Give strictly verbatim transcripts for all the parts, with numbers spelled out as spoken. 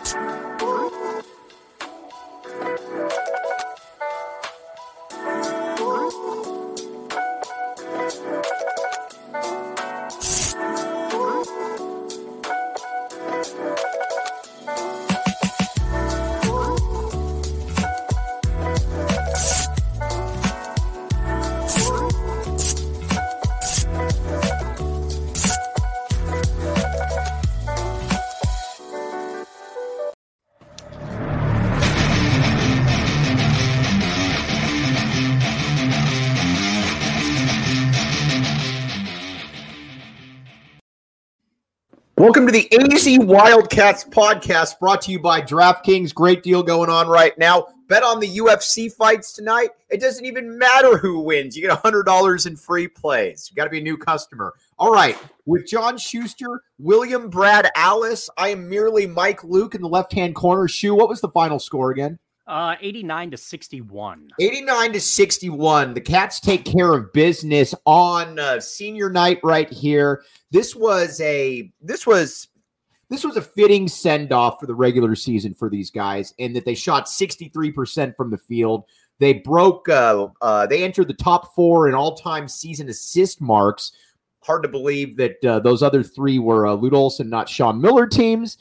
Welcome to the A Z Wildcats podcast, brought to you by DraftKings. Great deal going on right now. Bet on the U F C fights tonight. It doesn't even matter who wins. You get one hundred dollars in free plays. You got to be a new customer. All right, with John Schuster, William Brad Alice, I am merely Mike Luke in the left-hand corner. Shu, what was the final score again? Uh, eighty-nine to sixty-one. eighty-nine to sixty-one. The Cats take care of business on uh, senior night right here. This was a this was this was a fitting send-off for the regular season for these guys, in that they shot sixty-three percent from the field. They broke. Uh, uh, they entered the top four in all-time season assist marks. Hard to believe that uh, those other three were uh, Lute Olson, not Sean Miller teams.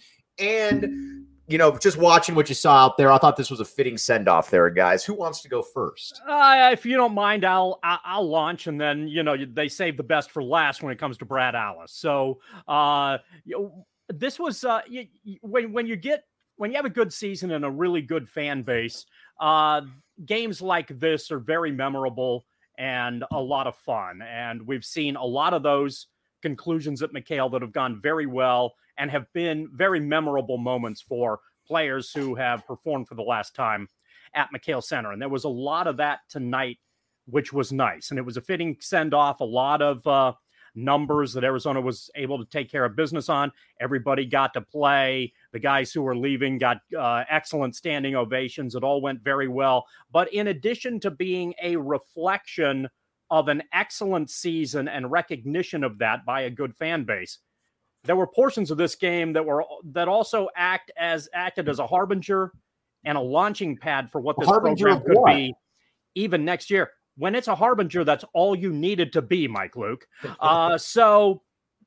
And you know, just watching what you saw out there, I thought this was a fitting send-off there, guys. Who wants to go first? Uh, if you don't mind, I'll I'll launch, and then, you know, they save the best for last when it comes to Brad Alice. So uh, you know, this was uh, you, when when you get when you have a good season and a really good fan base, uh, games like this are very memorable and a lot of fun. And we've seen a lot of those conclusions at McKale that have gone very well and have been very memorable moments for players who have performed for the last time at McKale Center. And there was a lot of that tonight, which was nice. And it was a fitting send-off, a lot of uh, numbers that Arizona was able to take care of business on. Everybody got to play. The guys who were leaving got uh, excellent standing ovations. It all went very well. But in addition to being a reflection of an excellent season and recognition of that by a good fan base, there were portions of this game that were that also act as acted as a harbinger and a launching pad for what this program could what? be even next year. When it's a harbinger, that's all you needed to be, Mike Luke. Uh, so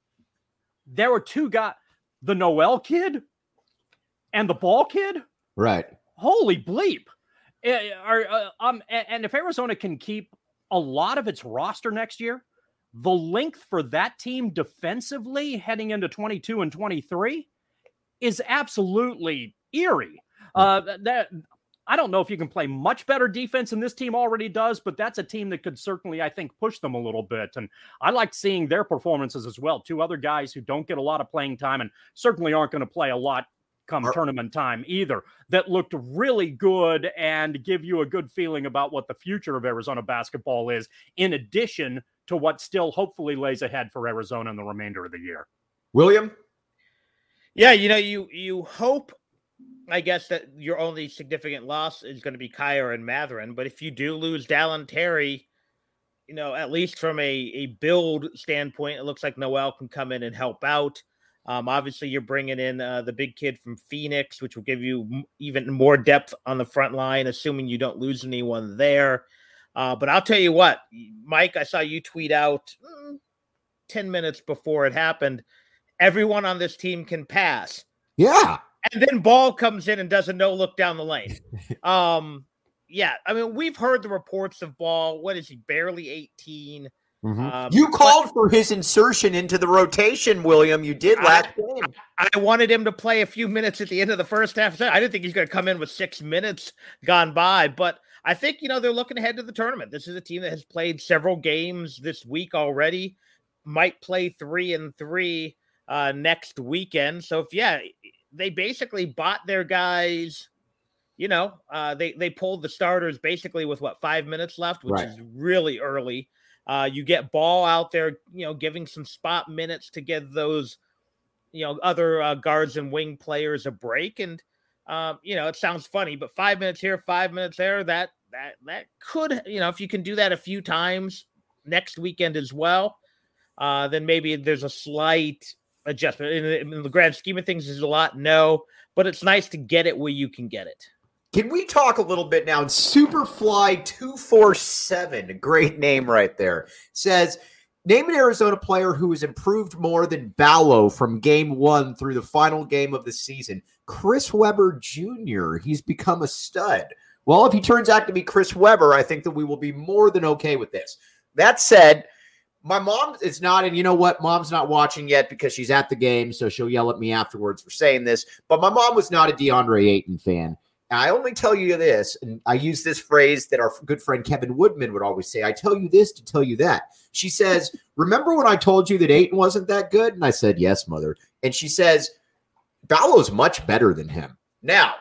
there were two guys, the Noel kid and the Ball kid. Right. Holy bleep. Uh, are, uh, um, and, and if Arizona can keep a lot of its roster next year, the length for that team defensively heading into twenty-two and twenty-three is absolutely eerie. Uh, that I don't know if you can play much better defense than this team already does, but that's a team that could certainly, I think, push them a little bit. And I liked seeing their performances as well. Two other guys who don't get a lot of playing time and certainly aren't going to play a lot come tournament time either, that looked really good and give you a good feeling about what the future of Arizona basketball is, in addition to what still hopefully lays ahead for Arizona in the remainder of the year. William? Yeah, you know, you you hope, I guess, that your only significant loss is going to be Kyer and Mathurin, but if you do lose Dallin Terry, you know, at least from a, a build standpoint, it looks like Noel can come in and help out. Um, obviously, you're bringing in uh, the big kid from Phoenix, which will give you m- even more depth on the front line, assuming you don't lose anyone there. Uh, but I'll tell you what, Mike, I saw you tweet out mm, ten minutes before it happened, everyone on this team can pass. Yeah. And then Ball comes in and does a no-look down the lane. um, yeah, I mean, we've heard the reports of Ball. What is he, barely eighteen? Mm-hmm. Um, you called but, for his insertion into the rotation, William. You did last I, game. I, I wanted him to play a few minutes at the end of the first half. I didn't think he's going to come in with six minutes gone by, but I think, you know, they're looking ahead to the tournament. This is a team that has played several games this week already, might play three and three uh, next weekend. So, if yeah, they basically bought their guys, you know, uh, they, they pulled the starters basically with, what, five minutes left, which right. is really early. Uh, you get Ball out there, you know, giving some spot minutes to give those, you know, other uh, guards and wing players a break. And, um, you know, it sounds funny, but five minutes here, five minutes there, that, that, that could, you know, if you can do that a few times next weekend as well, uh, then maybe there's a slight adjustment. In the, in the grand scheme of things, is a lot, no, but it's nice to get it where you can get it. Can we talk a little bit now? Superfly two forty-seven, a great name right there, says, name an Arizona player who has improved more than Ballo from game one through the final game of the season. Chris Webber Junior He's become a stud. Well, if he turns out to be Chris Webber, I think that we will be more than okay with this. That said, my mom is not, and you know what? Mom's not watching yet because she's at the game, so she'll yell at me afterwards for saying this. But my mom was not a DeAndre Ayton fan. And I only tell you this, and I use this phrase that our good friend Kevin Woodman would always say, I tell you this to tell you that. She says, remember when I told you that Ayton wasn't that good? And I said, yes, mother. And she says, Ballo's much better than him. Now,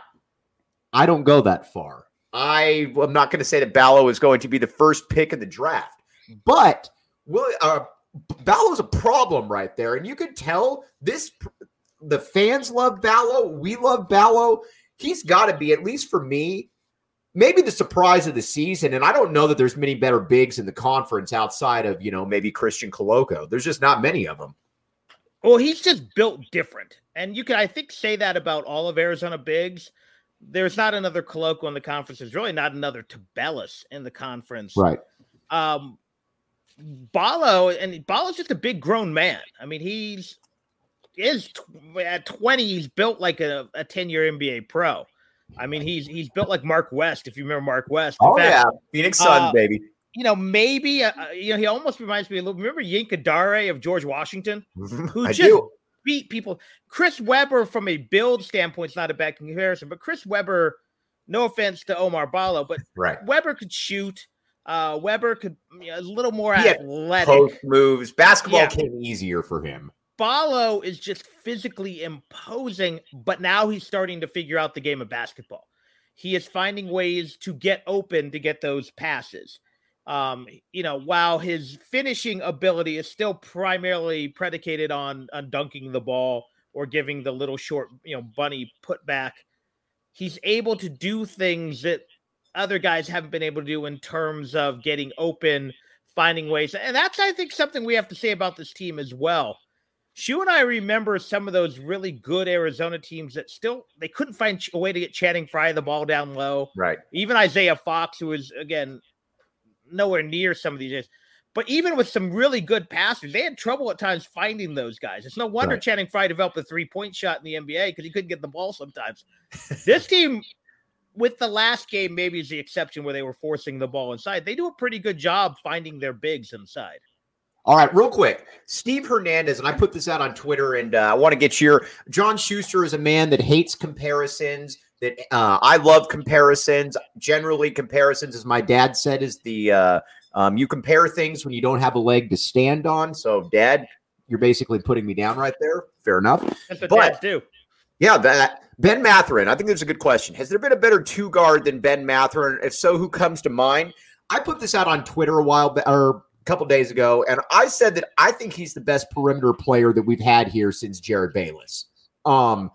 I don't go that far. I am not going to say that Ballo is going to be the first pick in the draft, but will, uh, Ballo's a problem right there. And you can tell this, the fans love Ballo. We love Ballo. He's got to be, at least for me, maybe the surprise of the season. And I don't know that there's many better bigs in the conference outside of, you know, maybe Christian Coloco. There's just not many of them. Well, he's just built different. And you can, I think, say that about all of Arizona bigs. There's not another Coloco in the conference. There's really not another Tabellus in the conference. Right. Um, Ballo, and Ballo's just a big grown man. I mean, he's is at twenty, he's built like a, a ten-year N B A pro. I mean, he's he's built like Mark West, if you remember Mark West. In oh, fact, yeah. Phoenix Suns, uh, baby. You know, maybe, uh, you know, he almost reminds me a little, remember Yinka Dare of George Washington? Who I just do. beat people. Chris Webber, from a build standpoint, is not a bad comparison, but Chris Webber, no offense to Omar Ballo, but right. Webber could shoot. Uh, Webber could, you know, a little more he athletic. Post moves. Basketball Yeah. came easier for him. Ballo is just physically imposing, but now he's starting to figure out the game of basketball. He is finding ways to get open to get those passes. Um, you know, while his finishing ability is still primarily predicated on, on dunking the ball or giving the little short, you know, bunny put back, he's able to do things that other guys haven't been able to do in terms of getting open, finding ways. And that's, I think, something we have to say about this team as well. Shu and I remember some of those really good Arizona teams that still, they couldn't find a way to get Channing Frye the ball down low. Right. Even Isaiah Fox, who was, again, nowhere near some of these days. But even with some really good passers, they had trouble at times finding those guys. It's no wonder Right. Channing Frye developed a three-point shot in the N B A because he couldn't get the ball sometimes. This team, with the last game, maybe is the exception where they were forcing the ball inside. They do a pretty good job finding their bigs inside. All right, real quick. Steve Hernandez, and I put this out on Twitter, and uh, I want to get your – John Schuster is a man that hates comparisons, that uh, I love comparisons. Generally, comparisons, as my dad said, is the uh, um, you compare things when you don't have a leg to stand on. So, Dad, you're basically putting me down right there. Fair enough. That's what But- dads do. Yeah, that Ben Mathurin. I think that's a good question. Has there been a better two guard than Ben Mathurin? If so, who comes to mind? I put this out on Twitter a while ba- or a couple days ago, and I said that I think he's the best perimeter player that we've had here since Jared Bayless. Um,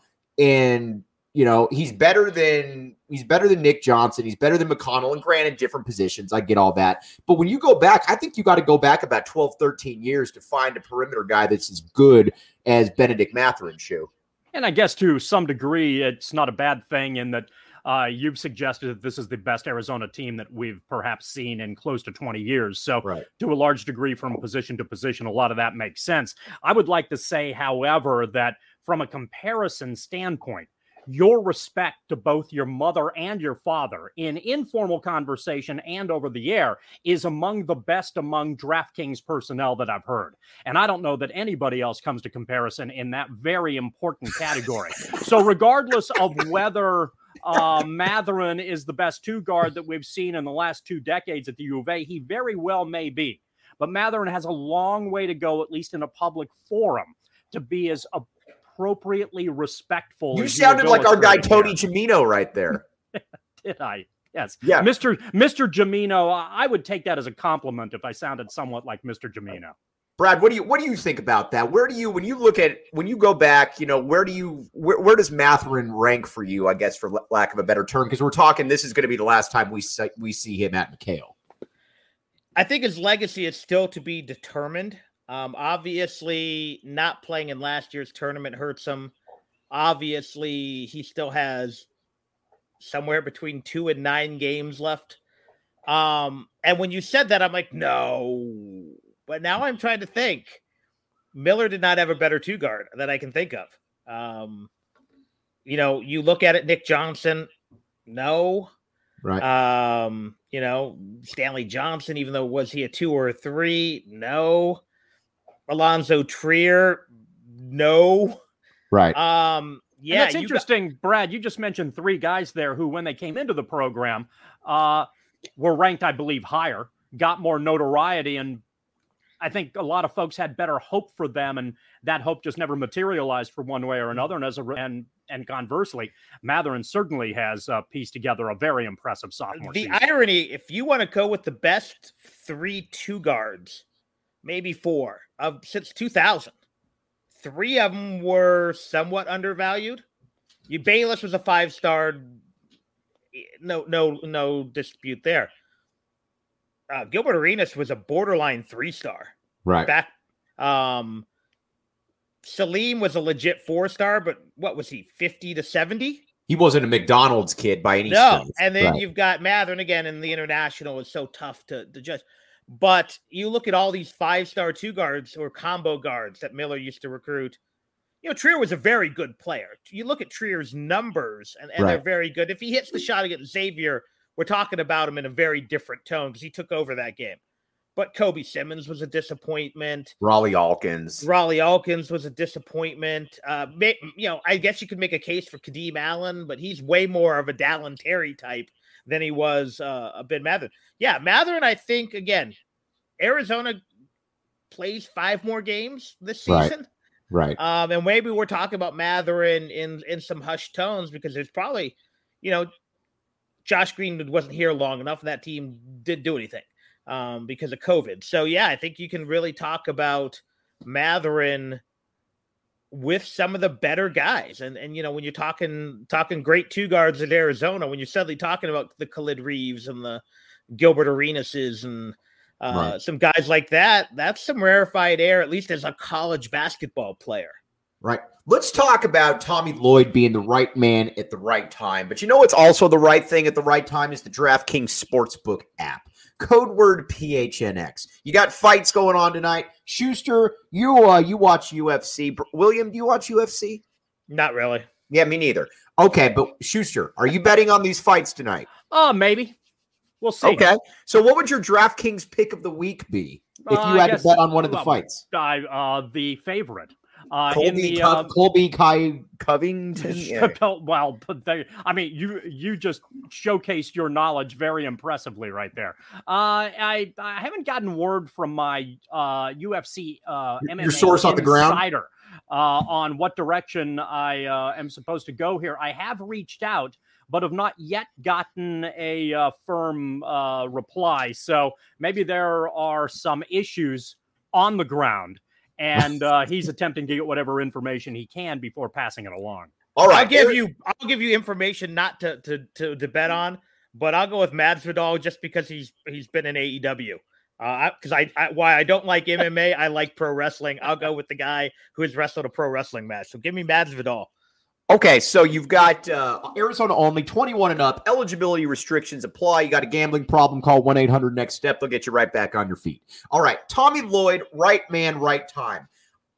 and you know he's better than he's better than Nick Johnson. He's better than McConnell. And granted, different positions. I get all that, but when you go back, I think you got to go back about twelve, thirteen years to find a perimeter guy that's as good as Benedict Mathurin. Shoe. And I guess to some degree, it's not a bad thing in that uh, you've suggested that this is the best Arizona team that we've perhaps seen in close to twenty years. So Right. to a large degree, from position to position, a lot of that makes sense. I would like to say, however, that from a comparison standpoint, your respect to both your mother and your father in informal conversation and over the air is among the best among DraftKings personnel that I've heard. And I don't know that anybody else comes to comparison in that very important category. So regardless of whether uh, Mathurin is the best two guard that we've seen in the last two decades at the U of A, he very well may be. But Mathurin has a long way to go, at least in a public forum, to be as a appropriately respectful. You as sounded you like our guy illustrated Tony here. Gimino right there. Did I? Yes. Yeah. Mister Mister Gimino, I would take that as a compliment if I sounded somewhat like Mister Gimino. Brad, what do you what do you think about that? Where do you when you look at when you go back, you know, where do you where, where does Mathurin rank for you? I guess for l- lack of a better term, because we're talking this is going to be the last time we see, we see him at McHale. I think his legacy is still to be determined. Um, obviously, not playing in last year's tournament hurts him. Obviously, he still has somewhere between two and nine games left. Um, and when you said that, I'm like, no. But now I'm trying to think. Miller did not have a better two guard that I can think of. Um, you know, you look at it, Nick Johnson, no. Right. Um, you know, Stanley Johnson, even though was he a two or a three? No. Alonzo Trier, no. Right. Um, yeah. And that's interesting, got- Brad. You just mentioned three guys there who, when they came into the program, uh, were ranked, I believe, higher, got more notoriety, and I think a lot of folks had better hope for them, and that hope just never materialized for one way or another. And as a and and conversely, Mathurin certainly has uh, pieced together a very impressive sophomore the season. irony, if you want to go with the best three two guards, maybe four of since two thousand, three of them were somewhat undervalued. You Bayless was a five star, no no no dispute there. Uh, Gilbert Arenas was a borderline three star. Right. Back, um, Salim was a legit four star, but what was he, fifty to seventy? He wasn't a McDonald's kid by any No. stretch. And then right. you've got Mathurin again, and the international is so tough to, to judge. But you look at all these five star two guards or combo guards that Miller used to recruit. You know, Trier was a very good player. You look at Trier's numbers, and, and right. they're very good. If he hits the shot against Xavier, we're talking about him in a very different tone because he took over that game. But Kobe Simmons was a disappointment. Raleigh Alkins. Raleigh Alkins was a disappointment. Uh, you know, I guess you could make a case for Kadeem Allen, but he's way more of a Dallin Terry type than he was uh, a Ben Mathurin. Yeah, Mathurin, I think, again, Arizona plays five more games this season. Right. right. Um, and maybe we're talking about Mathurin in, in some hushed tones because there's probably, you know, Josh Green wasn't here long enough, and that team didn't do anything um, because of COVID. So, yeah, I think you can really talk about Mathurin with some of the better guys. And, and you know, when you're talking talking great two guards at Arizona, when you're suddenly talking about the Khalid Reeves and the Gilbert Arenases and uh, right. some guys like that, that's some rarefied air, at least as a college basketball player. Right. Let's talk about Tommy Lloyd being the right man at the right time. But you know what's also the right thing at the right time is the DraftKings Sportsbook app. Code word P H N X. You got fights going on tonight. Schuster, you uh, you watch U F C. William, do you watch U F C? Not really. Yeah, me neither. Okay, but Schuster, are you betting on these fights tonight? Oh, uh, maybe. We'll see. Okay. So what would your DraftKings pick of the week be if you uh, had guess, to bet on one of the well, fights? I, uh, the favorite. Uh, Colby, in the, Co- uh, Colby Kai Covington. Yeah. Well, they, I mean, you you just showcased your knowledge very impressively right there. Uh, I I haven't gotten word from my uh, U F C uh, M M A your source on the ground insider uh, on what direction I uh, am supposed to go here. I have reached out, but have not yet gotten a uh, firm uh, reply. So maybe there are some issues on the ground. And uh, he's attempting to get whatever information he can before passing it along. All right, I'll give you I'll give you information not to to to, to bet on, but I'll go with Masvidal just because he's he's been in A E W. Uh, because I, I why I don't like M M A, I like pro wrestling. I'll go with the guy who has wrestled a pro wrestling match. So give me Masvidal. Okay, so you've got uh, Arizona only, twenty-one and up. Eligibility restrictions apply. You got a gambling problem, call one eight hundred next step. They'll get you right back on your feet. All right, Tommy Lloyd, right man, right time.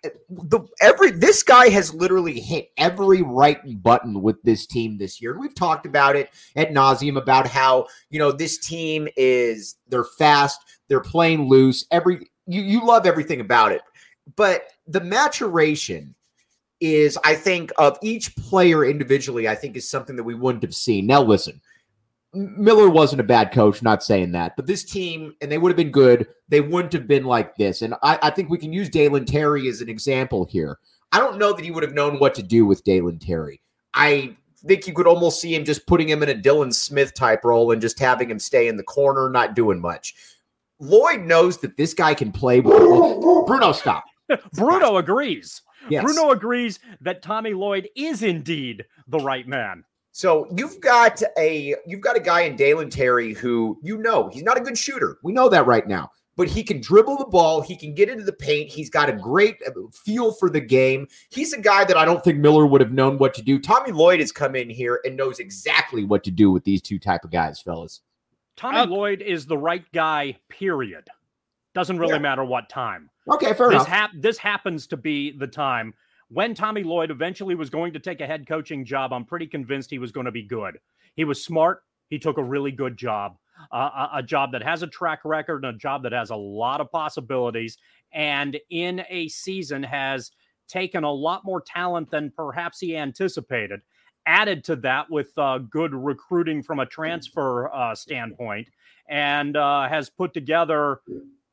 The every This guy has literally hit every right button with this team this year. We've talked about it ad nauseum about how, you know, this team is, they're fast, they're playing loose. Every you, you love everything about it. But the maturation is, I think, of each player individually, I think is something that we wouldn't have seen. Now, listen, Miller wasn't a bad coach, not saying that, but this team, and they would have been good, they wouldn't have been like this. And I, I think we can use Dalen Terry as an example here. I don't know that he would have known what to do with Dalen Terry. I think you could almost see him just putting him in a Dylan Smith type role and just having him stay in the corner, not doing much. Lloyd knows that this guy can play with Bruno, stop. Bruno agrees. Yes. Bruno agrees that Tommy Lloyd is indeed the right man. So you've got a you've got a guy in Dalen Terry who, you know, he's not a good shooter. We know that right now. but he can dribble the ball. He can get into the paint. He's got a great feel for the game. He's a guy that I don't think Miller would have known what to do. Tommy Lloyd has come in here and knows exactly what to do with these two type of guys, fellas. Tommy uh, Lloyd is the right guy, period. Doesn't really yeah. matter what time. Okay, fair this enough. Hap- this happens to be the time when Tommy Lloyd eventually was going to take a head coaching job. I'm pretty convinced he was going to be good. He was smart. He took a really good job, uh, a, a job that has a track record and a job that has a lot of possibilities. And in a season has taken a lot more talent than perhaps he anticipated. Added to that with uh, good recruiting from a transfer uh, standpoint, and uh, has put together.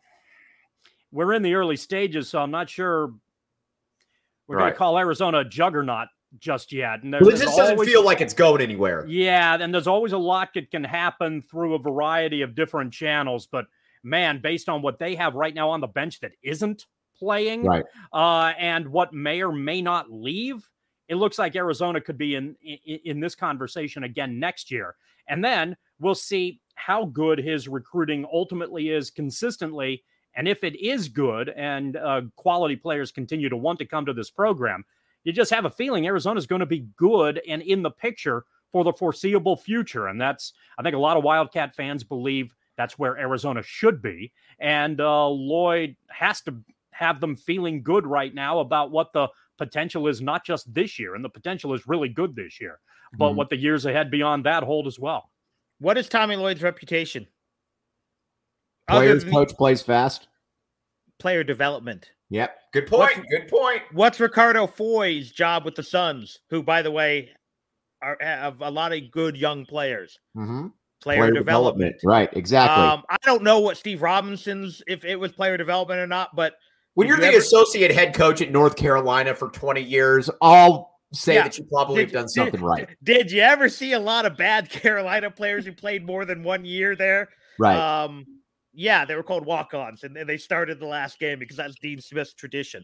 We're in the early stages, so I'm not sure we're right. going to call Arizona a juggernaut just yet. And there, well, it just doesn't always, feel like it's going anywhere. Yeah, and there's always a lot that can happen through a variety of different channels. But, man, based on what they have right now on the bench that isn't playing, right. uh, and what may or may not leave, it looks like Arizona could be in, in, in this conversation again next year. And then we'll see how good his recruiting ultimately is consistently. And if it is good and uh, quality players continue to want to come to this program, you just have a feeling Arizona is going to be good and in the picture for the foreseeable future. And that's, I think a lot of Wildcat fans believe that's where Arizona should be. And uh, Lloyd has to have them feeling good right now about what the potential is, not just this year. And the potential is really good this year, but mm-hmm. what the years ahead beyond that hold as well. What is Tommy Lloyd's reputation? Players coach plays fast. Player development. Yep. Good point. What's, Good point. What's Ricardo Foy's job with the Suns, who, by the way, are have a lot of good young players? Mm-hmm. Player, player development. development. Right. Exactly. Um, I don't know what Steve Robinson's, if it was player development or not, but when you're you the ever, associate head coach at North Carolina for twenty years, I'll say yeah, that you probably did, have done something did, right. Did you ever see a lot of bad Carolina players who played more than one year there? Right. Um, Yeah, they were called walk-ons, and they started the last game because that's Dean Smith's tradition.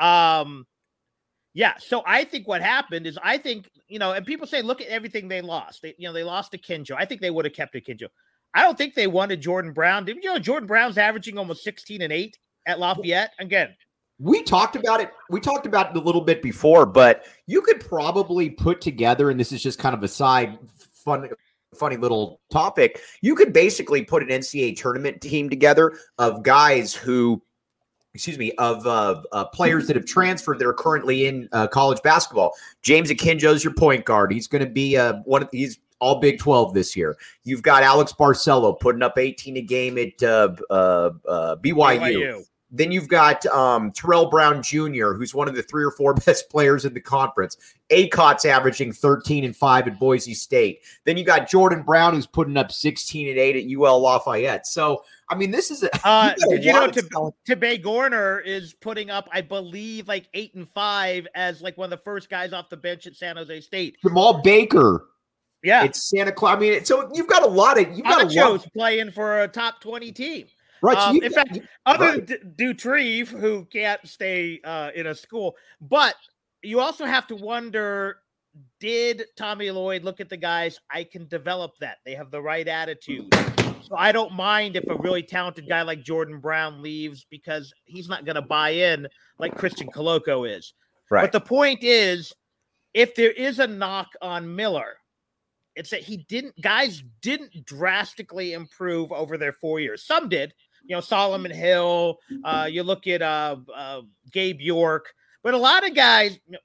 Um, yeah, so I think what happened is I think, you know, and people say, look at everything they lost. They, you know, they lost to Kinjo. I think they would have kept a Kinjo. I don't think they wanted Jordan Brown. Didn't you know Jordan Brown's averaging almost sixteen and eight at Lafayette? Again, we talked about it. We talked about it a little bit before, but you could probably put together, and this is just kind of a side fun funny little topic. You could basically put an N C double A tournament team together of guys who, excuse me, of uh, uh, players that have transferred that are currently in uh, college basketball. James Akinjo's your point guard. He's going to be uh, one of he's all Big twelve this year. You've got Alex Barcelo putting up eighteen a game at uh, uh, uh, B Y U. B Y U. Then you've got um, Terrell Brown Junior, who's one of the three or four best players in the conference. A C O T's averaging thirteen and five at Boise State. Then you got Jordan Brown, who's putting up sixteen and eight at U L Lafayette. So, I mean, this is a. Uh, did you know Tebey Gorner is putting up, I believe, like eight and five as like one of the first guys off the bench at San Jose State. Jamal Baker. Yeah, it's Santa Clara. I mean, so you've got a lot of. You've got a lot of playing for a top twenty team. Right. So um, in got, fact, other right. than D- Dutrieve, who can't stay uh, in a school, but you also have to wonder, did Tommy Lloyd look at the guys? I can develop that. They have the right attitude. So I don't mind if a really talented guy like Jordan Brown leaves because he's not going to buy in like Christian Coloco is. Right. But the point is, if there is a knock on Miller, it's that he didn't, guys didn't drastically improve over their four years. Some did. You know, Solomon Hill, uh, you look at uh, uh, Gabe York, but a lot of guys, you know,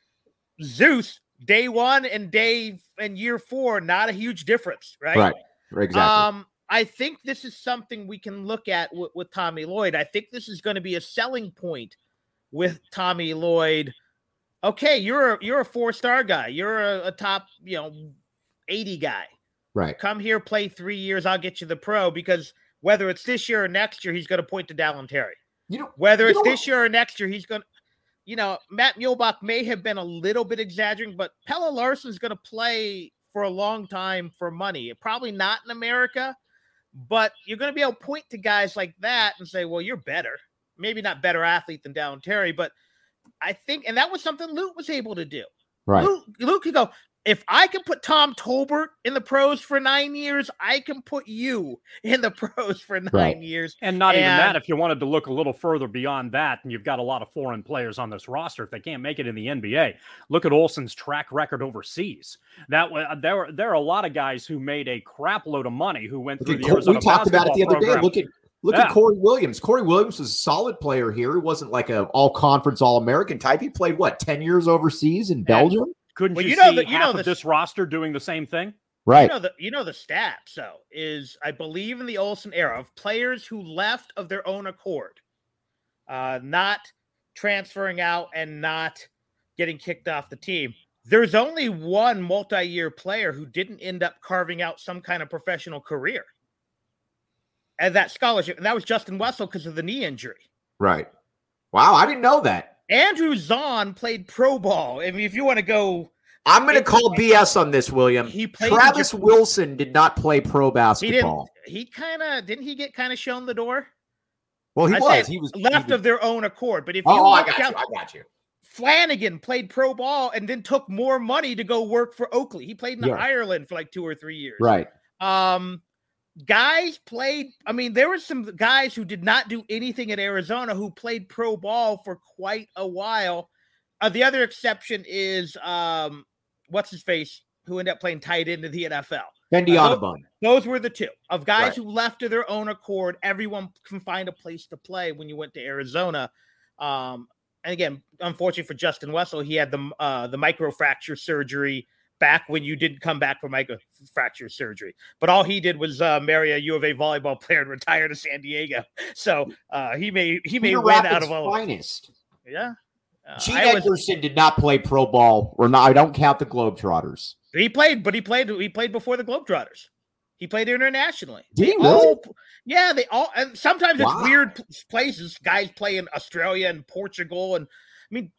Zeus, day one and day and year four, not a huge difference, right? Right, exactly. Um, I think this is something we can look at w- with Tommy Lloyd. I think this is going to be a selling point with Tommy Lloyd. Okay, you're a, you're a four-star guy. You're a, a top, you know, eighty guy. Right. Come here, play three years. I'll get you the pro because – whether it's this year or next year, he's going to point to Dallin Terry. You know, whether you it's know this what? year or next year, he's going to, you know, Matt Muehlbach may have been a little bit exaggerating, but Pelle Larsson's going to play for a long time for money. Probably not in America, but you're going to be able to point to guys like that and say, well, you're better. Maybe not better athlete than Dallin Terry, but I think, and that was something Luke was able to do. Right. Luke, Luke could go, if I can put Tom Tolbert in the pros for nine years, I can put you in the pros for nine right. years. And not and, even that, if you wanted to look a little further beyond that, and you've got a lot of foreign players on this roster, if they can't make it in the N B A, look at Olsen's track record overseas. That there were there are a lot of guys who made a crap load of money who went Look through the Cor- Arizona We talked about it the other program. day. Look at look yeah. at Corey Williams. Corey Williams was a solid player here. He wasn't like a all conference, all American type. He played what ten years overseas in Belgium. And couldn't well, you, you know see the, you half know of the, this roster doing the same thing? Right. You know the you know the stats though is I believe in the Olsen era of players who left of their own accord, uh, not transferring out and not getting kicked off the team. There's only one multi-year player who didn't end up carving out some kind of professional career and that scholarship, and that was Justin Wessel because of the knee injury. Right. Wow, I didn't know that. Andrew Zahn played pro ball. I mean, if you want to go, I'm going to call B S on this, William. He played Travis Japan. Wilson did not play pro basketball. He didn't. He kind of didn't. He get kind of shown the door. Well, he I was. said He was left he was, of their own accord. But if you Oh, I look got down, you. I got you. Flanagan played pro ball and then took more money to go work for Oakley. He played in Yeah. Ireland for like two or three years. Right. Um, guys played. I mean, there were some guys who did not do anything at Arizona who played pro ball for quite a while. Uh, the other exception is um, what's his face, who ended up playing tight end in the N F L. Fendi Uh, Audubon. Those were the two of guys Right. who left to their own accord. Everyone can find a place to play when you went to Arizona. Um, and again, unfortunately for Justin Wessel, he had the uh, the microfracture surgery back when you didn't come back from microfracture surgery. But all he did was uh, marry a U of A volleyball player and retire to San Diego. So uh, he may he may Peter win Rapids out of all. finest. Yeah. Uh, Gene I was- Edgerson did not play pro ball, or not. I don't count the Globetrotters. He played, but he played. He played before the Globetrotters. He played internationally. Did he They really? all- yeah, they all. And sometimes Wow. it's weird p- places. Guys play in Australia and Portugal, and I mean,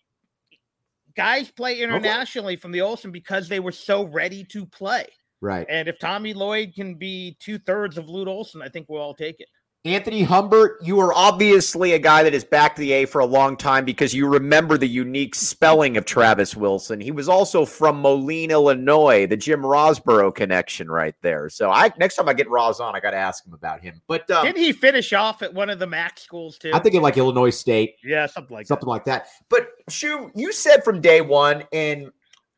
guys play internationally from the Olsen because they were so ready to play. Right. And if Tommy Lloyd can be two thirds of Lute Olson, I think we'll all take it. Anthony Humbert, you are obviously a guy that has backed the A for a long time because you remember the unique spelling of Travis Wilson. He was also from Moline, Illinois, the Jim Rosborough connection right there. So I next time I get Roz on, I got to ask him about him. But um, Didn't he finish off at one of the M A C schools too? I think in like Illinois State, yeah, something like something like that. But Shu, you said from day one, and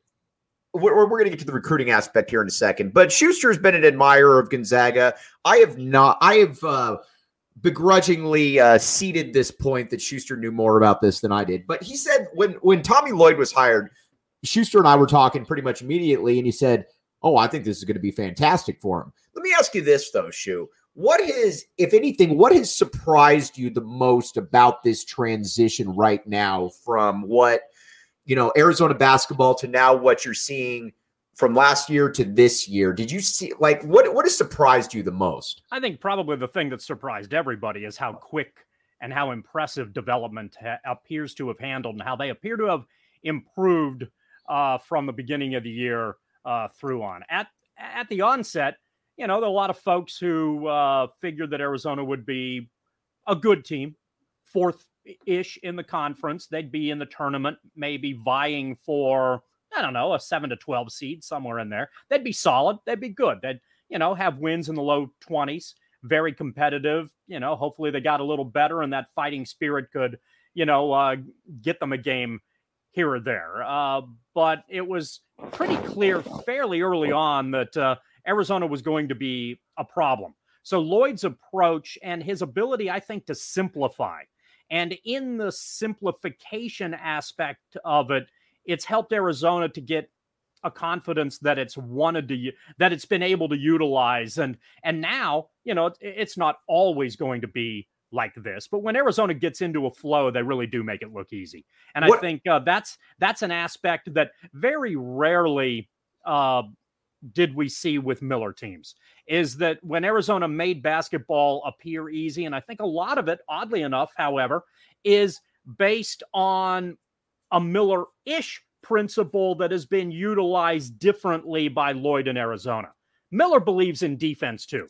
we're, we're going to get to the recruiting aspect here in a second, but Schuster's been an admirer of Gonzaga. I have not, I have uh, begrudgingly uh, ceded this point that Schuster knew more about this than I did. But he said when, when Tommy Lloyd was hired, Schuster and I were talking pretty much immediately, and he said, oh, I think this is going to be fantastic for him. Let me ask you this, though, Shu. What has, if anything, what has surprised you the most about this transition right now from what, you know, Arizona basketball to now what you're seeing from last year to this year? Did you see, like, what, what has surprised you the most? I think probably the thing that surprised everybody is how quick and how impressive development ha- appears to have handled and how they appear to have improved uh, from the beginning of the year uh, through on. At, at the onset, you know, there are a lot of folks who uh, figured that Arizona would be a good team, fourth-ish in the conference. They'd be in the tournament, maybe vying for, I don't know, a seven to twelve seed, somewhere in there. They'd be solid. They'd be good. They'd, you know, have wins in the low twenties, very competitive. You know, hopefully they got a little better and that fighting spirit could, you know, uh, get them a game here or there. Uh, but it was pretty clear fairly early on that uh, Arizona was going to be a problem. So Lloyd's approach and his ability, I think, to simplify. And in the simplification aspect of it, it's helped Arizona to get a confidence that it's wanted to, that it's been able to utilize. And, and now, you know, it, it's not always going to be like this, but when Arizona gets into a flow, they really do make it look easy. And What- I think uh, that's, that's an aspect that very rarely uh, did we see with Miller teams, is that when Arizona made basketball appear easy, and I think a lot of it, oddly enough, however, is based on a Miller-ish principle that has been utilized differently by Lloyd in Arizona. Miller believes in defense too.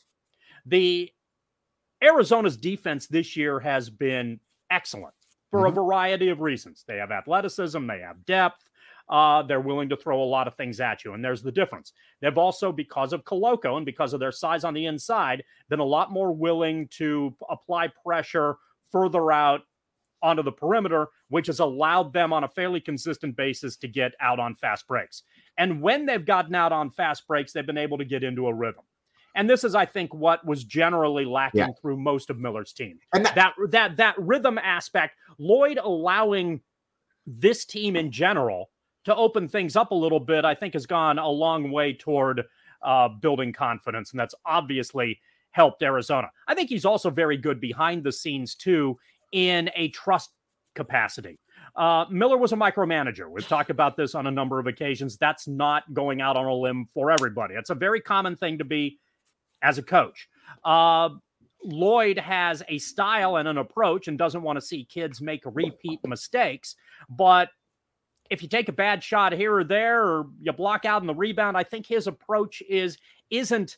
The Arizona's defense this year has been excellent for Mhm. a variety of reasons. They have athleticism, they have depth, uh, they're willing to throw a lot of things at you. And there's the difference. They've also, because of Koloko and because of their size on the inside, been a lot more willing to apply pressure further out onto the perimeter, which has allowed them on a fairly consistent basis to get out on fast breaks. And when they've gotten out on fast breaks, they've been able to get into a rhythm. And this is, I think, what was generally lacking yeah. through most of Miller's team. And that, that that that rhythm aspect, Lloyd allowing this team in general to open things up a little bit, I think has gone a long way toward uh, building confidence. And that's obviously helped Arizona. I think he's also very good behind the scenes, too, in a trust capacity. Uh, Miller was a micromanager. We've talked about this on a number of occasions. That's not going out on a limb for everybody. It's a very common thing to be as a coach. Uh, Lloyd has a style and an approach and doesn't want to see kids make repeat mistakes. But if you take a bad shot here or there, or you block out in the rebound, I think his approach is, isn't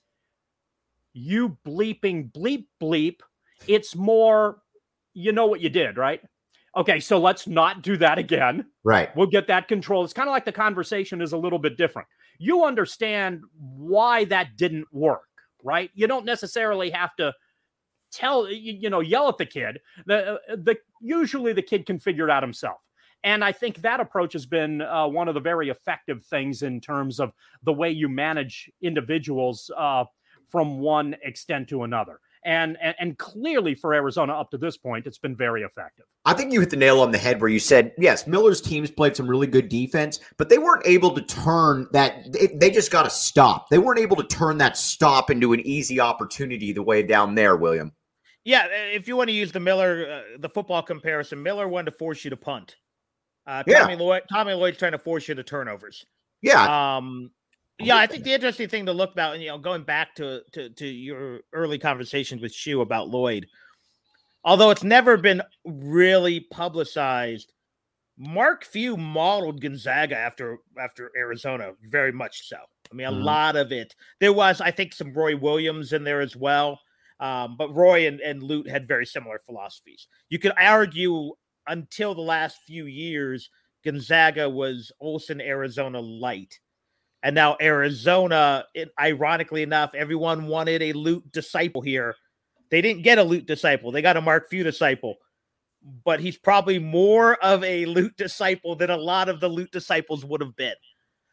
you bleeping bleep bleep. It's more, you know what you did, right? Okay, so let's not do that again. Right. We'll get that control. It's kind of like the conversation is a little bit different. You understand why that didn't work, right? You don't necessarily have to tell, you, you know, yell at the kid. The, the Usually the kid can figure it out himself. And I think that approach has been uh, one of the very effective things in terms of the way you manage individuals uh, from one extent to another. And, and and clearly for Arizona up to this point, it's been very effective. I think you hit the nail on the head where you said, yes, Miller's teams played some really good defense, but they weren't able to turn that. They, they just got to stop. They weren't able to turn that stop into an easy opportunity the way down there, William. Yeah, if you want to use the Miller, uh, the football comparison, Miller wanted to force you to punt. Uh, Tommy, yeah. Lloyd, Tommy Lloyd's trying to force you to turnovers. Yeah. Um, Yeah, I think the interesting thing to look about, and you know, going back to, to to your early conversations with Shu about Lloyd, although it's never been really publicized, Mark Few modeled Gonzaga after after Arizona, very much so. I mean, a mm-hmm. lot of it. There was, I think, some Roy Williams in there as well, um, but Roy and, and Lute had very similar philosophies. You could argue until the last few years, Gonzaga was Olsen, Arizona light. And now Arizona, it, ironically enough, everyone wanted a Lute disciple here. They didn't get a Lute disciple. They got a Mark Few disciple. But he's probably more of a Lute disciple than a lot of the Lute disciples would have been.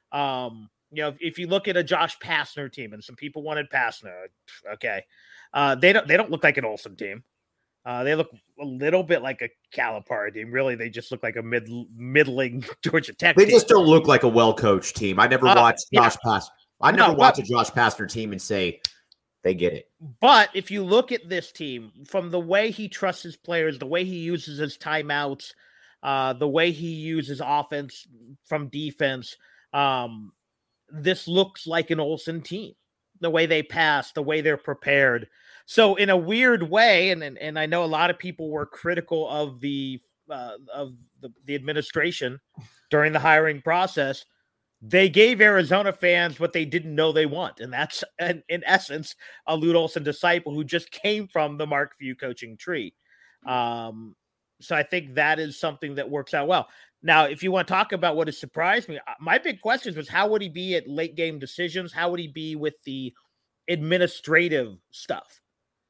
Um, you know, if, if you look at a Josh Pastner team, and some people wanted Pastner, okay, uh, they don't they don't look like an Olsen team. Uh, they look a little bit like a Calipari team. Really, they just look like a mid middling Georgia Tech They team. just don't look like a well-coached team. I never uh, watched Josh yeah. Pastner. I never no, watched but, a Josh Pastner team and say they get it. But if you look at this team, from the way he trusts his players, the way he uses his timeouts, uh, the way he uses offense from defense, um, this looks like an Olsen team. The way they pass, the way they're prepared. So in a weird way, and, and and I know a lot of people were critical of the uh, of the, the administration during the hiring process, they gave Arizona fans what they didn't know they want, and that's in, in essence a Lute Olsen disciple who just came from the Mark Few coaching tree. Um, so I think that is something that works out well. Now, if you want to talk about what has surprised me, my big question was how would he be at late game decisions? How would he be with the administrative stuff?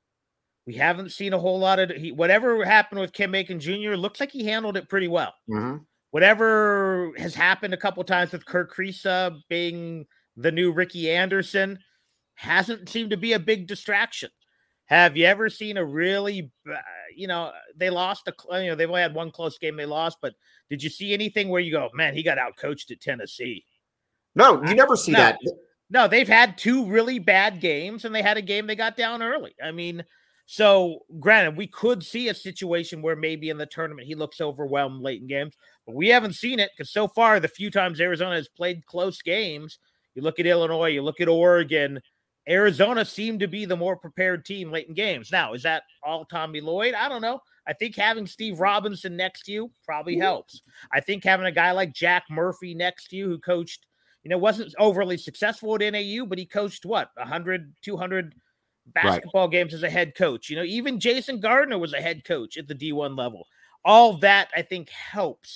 We haven't seen a whole lot of he, whatever happened with Ken Macon Junior Looks like he handled it pretty well. Mm-hmm. Whatever has happened a couple times with Kirk Kriisa being the new Ricky Anderson hasn't seemed to be a big distraction. Have you ever seen a really, uh, you know, they lost a, you know, they've only had one close game they lost, but did you see anything where you go, man, he got outcoached at Tennessee? No, you never see no, that. No, they've had two really bad games, and they had a game they got down early. I mean, so granted, we could see a situation where maybe in the tournament he looks overwhelmed late in games, but we haven't seen it because so far the few times Arizona has played close games, you look at Illinois, you look at Oregon, Arizona seemed to be the more prepared team late in games. Now, is that all Tommy Lloyd? I don't know. I think having Steve Robinson next to you probably helps. I think having a guy like Jack Murphy next to you who coached, you know, wasn't overly successful at N A U, but he coached what, one hundred, two hundred basketball right. games as a head coach. You know, even Jason Gardner was a head coach at the D one level. All that, I think, helps.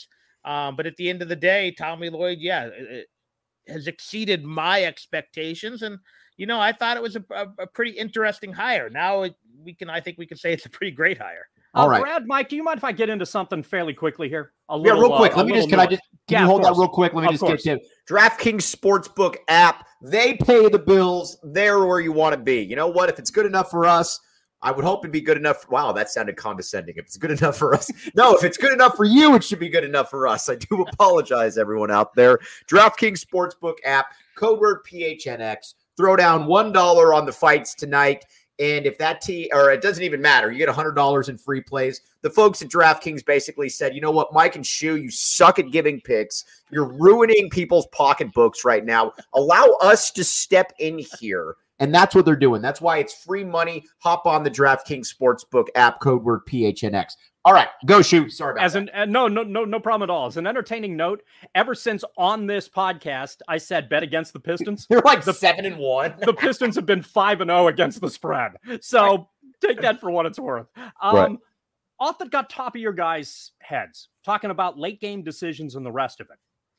Um, but at the end of the day, Tommy Lloyd, yeah, it, it has exceeded my expectations. And, you know, I thought it was a, a, a pretty interesting hire. Now it, we can, I think we can say it's a pretty great hire. All uh, right, Brad, Mike, do you mind if I get into something fairly quickly here? A little, yeah, real quick. Uh, Let me just, can I just, can yeah, you hold that real quick? Let me of just course. get to DraftKings Sportsbook app. They pay the bills. They're where you want to be. You know what? If it's good enough for us, I would hope it'd be good enough. Wow, that sounded condescending. If it's good enough for us. No, if it's good enough for you, it should be good enough for us. I do apologize, everyone out there. DraftKings Sportsbook app, code word P H N X. Throw down one dollar on the fights tonight. And if that T, or it doesn't even matter, you get one hundred dollars in free plays. The folks at DraftKings basically said, you know what, Mike and Shu, you suck at giving picks. You're ruining people's pocketbooks right now. Allow us to step in here. And that's what they're doing. That's why it's free money. Hop on the DraftKings Sportsbook app, code word P H N X. All right, go shoot. Sorry about As that. an uh, no, no, no, no problem at all. As an entertaining note, ever since on this podcast, I said bet against the Pistons. They're like the, seven and one. The Pistons have been five and zero against the spread. So right. Take that for what it's worth. Um, right. Off the got top of your guys' heads, talking about late game decisions and the rest of it.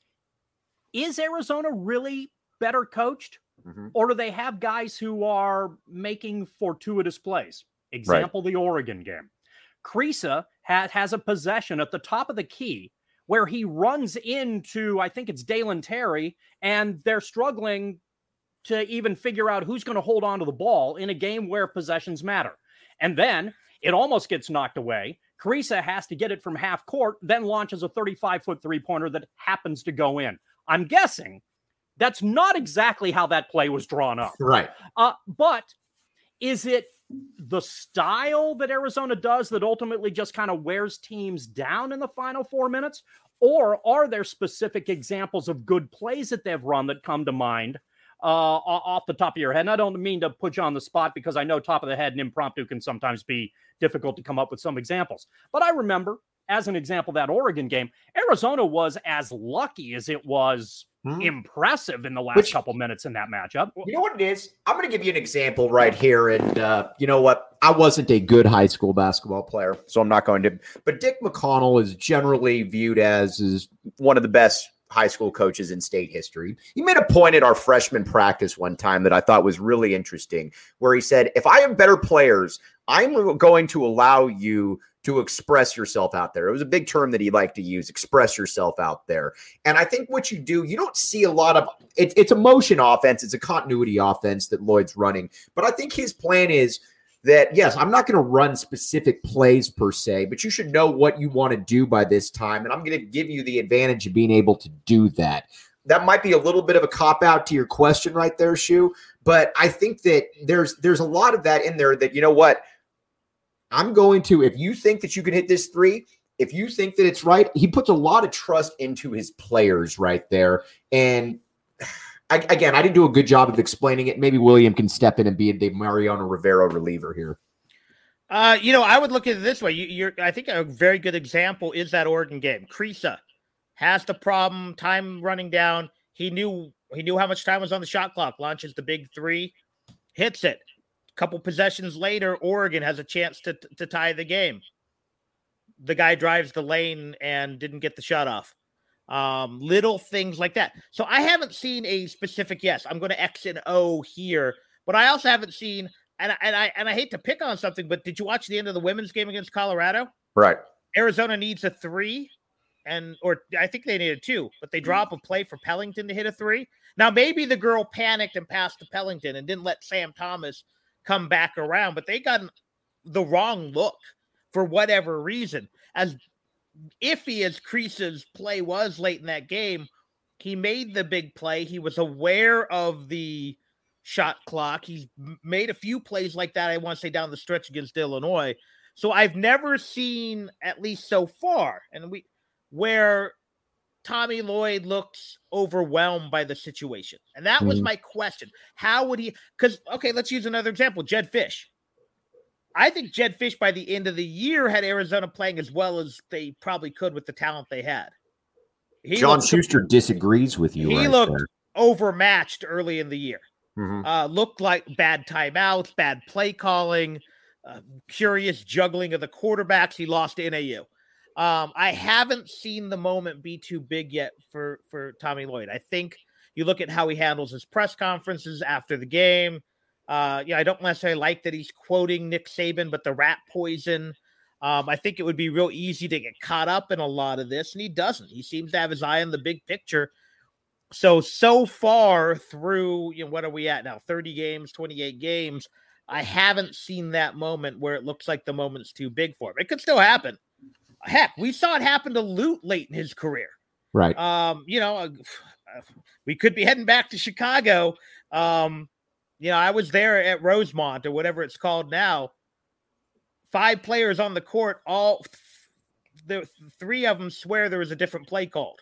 Is Arizona really better coached, mm-hmm. or do they have guys who are making fortuitous plays? Example: right. The Oregon game. Kriisa has, has a possession at the top of the key where he runs into, I think it's Dalen Terry, and they're struggling to even figure out who's going to hold on to the ball in a game where possessions matter. And then it almost gets knocked away. Kriisa has to get it from half court, then launches a thirty-five foot three-pointer that happens to go in. I'm guessing that's not exactly how that play was drawn up. Right. Uh, but is it the style that Arizona does that ultimately just kind of wears teams down in the final four minutes? Or are there specific examples of good plays that they've run that come to mind uh, off the top of your head? And I don't mean to put you on the spot because I know top of the head and impromptu can sometimes be difficult to come up with some examples. But I remember, as an example, that Oregon game, Arizona was as lucky as it was Hmm. impressive in the last Which, couple minutes in that matchup. You know what it is? I'm going to give you an example right here. And uh, you know what? I wasn't a good high school basketball player, so I'm not going to. But Dick McConnell is generally viewed as, as one of the best high school coaches in state history. He made a point at our freshman practice one time that I thought was really interesting, where he said, if I have better players, I'm going to allow you to express yourself out there. It was a big term that he liked to use, express yourself out there. And I think what you do, you don't see a lot of it, it's a motion offense. It's a continuity offense that Lloyd's running. But I think his plan is that, yes, I'm not going to run specific plays per se, but you should know what you want to do by this time. And I'm going to give you the advantage of being able to do that. That might be a little bit of a cop-out to your question right there, Shu. But I think that there's there's a lot of that in there that, you know what, I'm going to, if you think that you can hit this three, if you think that it's right, he puts a lot of trust into his players right there. And I, again, I didn't do a good job of explaining it. Maybe William can step in and be the Mariano Rivera reliever here. Uh, you know, I would look at it this way. You, you're, I think a very good example is that Oregon game. Kriisa has the problem, time running down. He knew he knew how much time was on the shot clock. Launches the big three, hits it. Couple possessions later, Oregon has a chance to, to tie the game. The guy drives the lane and didn't get the shot off. Um, little things like that. So I haven't seen a specific, yes, I'm going to X and O here, but I also haven't seen, and, and I and I hate to pick on something, but did you watch the end of the women's game against Colorado? Right. Arizona needs a three, and or I think they needed two, but they drop a play for Pellington to hit a three. Now, maybe the girl panicked and passed to Pellington and didn't let Sam Thomas come back around, but they got the wrong look for whatever reason. As iffy as Kriisa's play was late in that game, he made the big play. He was aware of the shot clock. He's made a few plays like that, I want to say, down the stretch against Illinois. So I've never seen, at least so far, and we where Tommy Lloyd looks overwhelmed by the situation. And that mm-hmm. was my question. How would he, because, okay, let's use another example, Jedd Fisch. I think Jedd Fisch by the end of the year had Arizona playing as well as they probably could with the talent they had. He John looked, Schuster disagrees with you. He right looked there. overmatched early in the year. Mm-hmm. Uh, looked like bad timeouts, bad play calling, uh, curious juggling of the quarterbacks. He lost to N A U. Um, I haven't seen the moment be too big yet for, for Tommy Lloyd. I think you look at how he handles his press conferences after the game. Uh, yeah, I don't necessarily like that he's quoting Nick Saban, but the rat poison. Um, I think it would be real easy to get caught up in a lot of this, and he doesn't. He seems to have his eye on the big picture. So, so far through, you know, what are we at now? thirty games, twenty-eight games. I haven't seen that moment where it looks like the moment's too big for him. It could still happen. Heck, we saw it happen to Lute late in his career. Right. Um, you know, we could be heading back to Chicago. Um, you know, I was there at Rosemont or whatever it's called now. Five players on the court, all the three of them swear there was a different play called.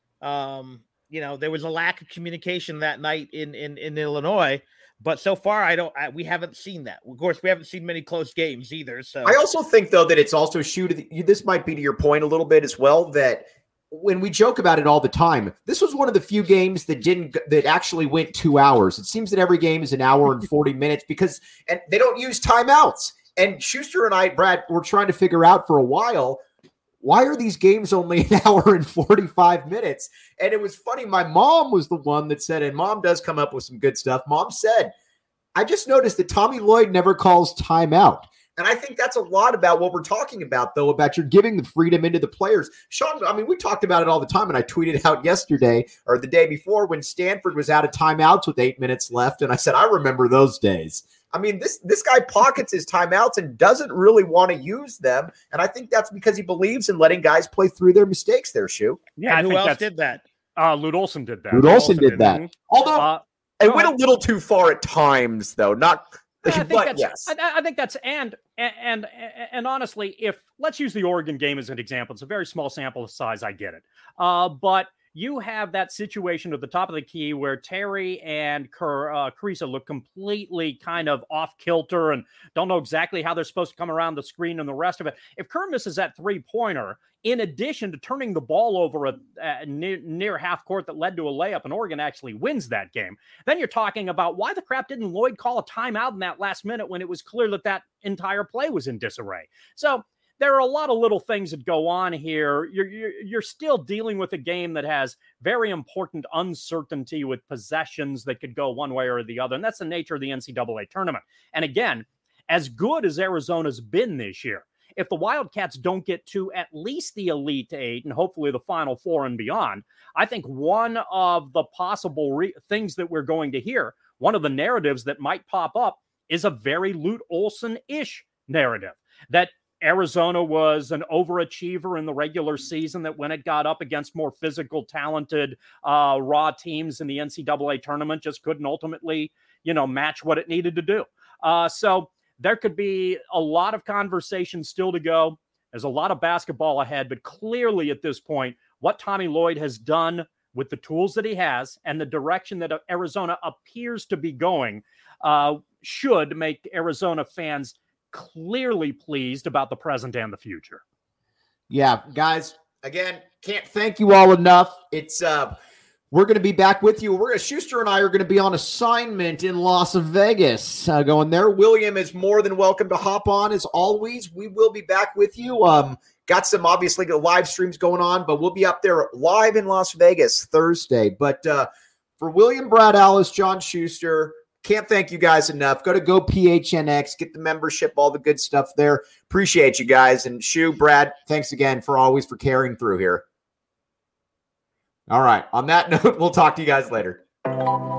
Um, you know, there was a lack of communication that night in in, in Illinois. But so far, I don't. I, we haven't seen that. Of course, we haven't seen many close games either. So I also think, though, that it's also shoot. This might be to your point a little bit as well. That when we joke about it all the time, this was one of the few games that didn't that actually went two hours. It seems that every game is an hour and forty minutes because and they don't use timeouts. And Schuster and I, Brad, were trying to figure out for a while, why are these games only an hour and forty-five minutes? And it was funny. My mom was the one that said, and Mom does come up with some good stuff. Mom said, I just noticed that Tommy Lloyd never calls timeout. And I think that's a lot about what we're talking about, though, about you're giving the freedom into the players. Sean, I mean, we talked about it all the time, and I tweeted out yesterday or the day before when Stanford was out of timeouts with eight minutes left. And I said, I remember those days. I mean, this this guy pockets his timeouts and doesn't really want to use them. And I think that's because he believes in letting guys play through their mistakes there, Shu. Yeah, and who else did that? Uh, Lute Olson did that. Lute Olson did that. did. Although uh, it went a little too far at times, though. Not, I think but that's, yes. I, I think that's and, and and and honestly, if let's use the Oregon game as an example, it's a very small sample size. I get it, uh, but. You have that situation at the top of the key where Terry and Ker, uh, Carissa look completely kind of off kilter and don't know exactly how they're supposed to come around the screen and the rest of it. If Kerr misses that three-pointer, in addition to turning the ball over a, a near, near half court that led to a layup and Oregon actually wins that game, then you're talking about why the crap didn't Lloyd call a timeout in that last minute when it was clear that that entire play was in disarray. So there are a lot of little things that go on here. You're, you're, you're still dealing with a game that has very important uncertainty with possessions that could go one way or the other. And that's the nature of the N C double A tournament. And again, as good as Arizona's been this year, if the Wildcats don't get to at least the Elite Eight and hopefully the Final Four and beyond, I think one of the possible re- things that we're going to hear, one of the narratives that might pop up is a very Lute Olson-ish narrative that Arizona was an overachiever in the regular season, that when it got up against more physical, talented, uh, raw teams in the N C double A tournament, just couldn't ultimately, you know, match what it needed to do. Uh, so there could be a lot of conversation still to go. There's a lot of basketball ahead, but clearly at this point, what Tommy Lloyd has done with the tools that he has and the direction that Arizona appears to be going uh, should make Arizona fans clearly pleased about the present and the future. Yeah, guys, again, can't thank you all enough. It's uh we're going to be back with you. We're going to, Schuster and I are going to be on assignment in Las Vegas uh, going there. William is more than welcome to hop on as always. We will be back with you. Um, got some obviously live streams going on, but we'll be up there live in Las Vegas Thursday. But uh, for William, Brad Allis, John Schuster, can't thank you guys enough. Go to Go P H N X, get the membership, all the good stuff there. Appreciate you guys. And Shu, Brad, thanks again for always for carrying through here. All right. On that note, we'll talk to you guys later.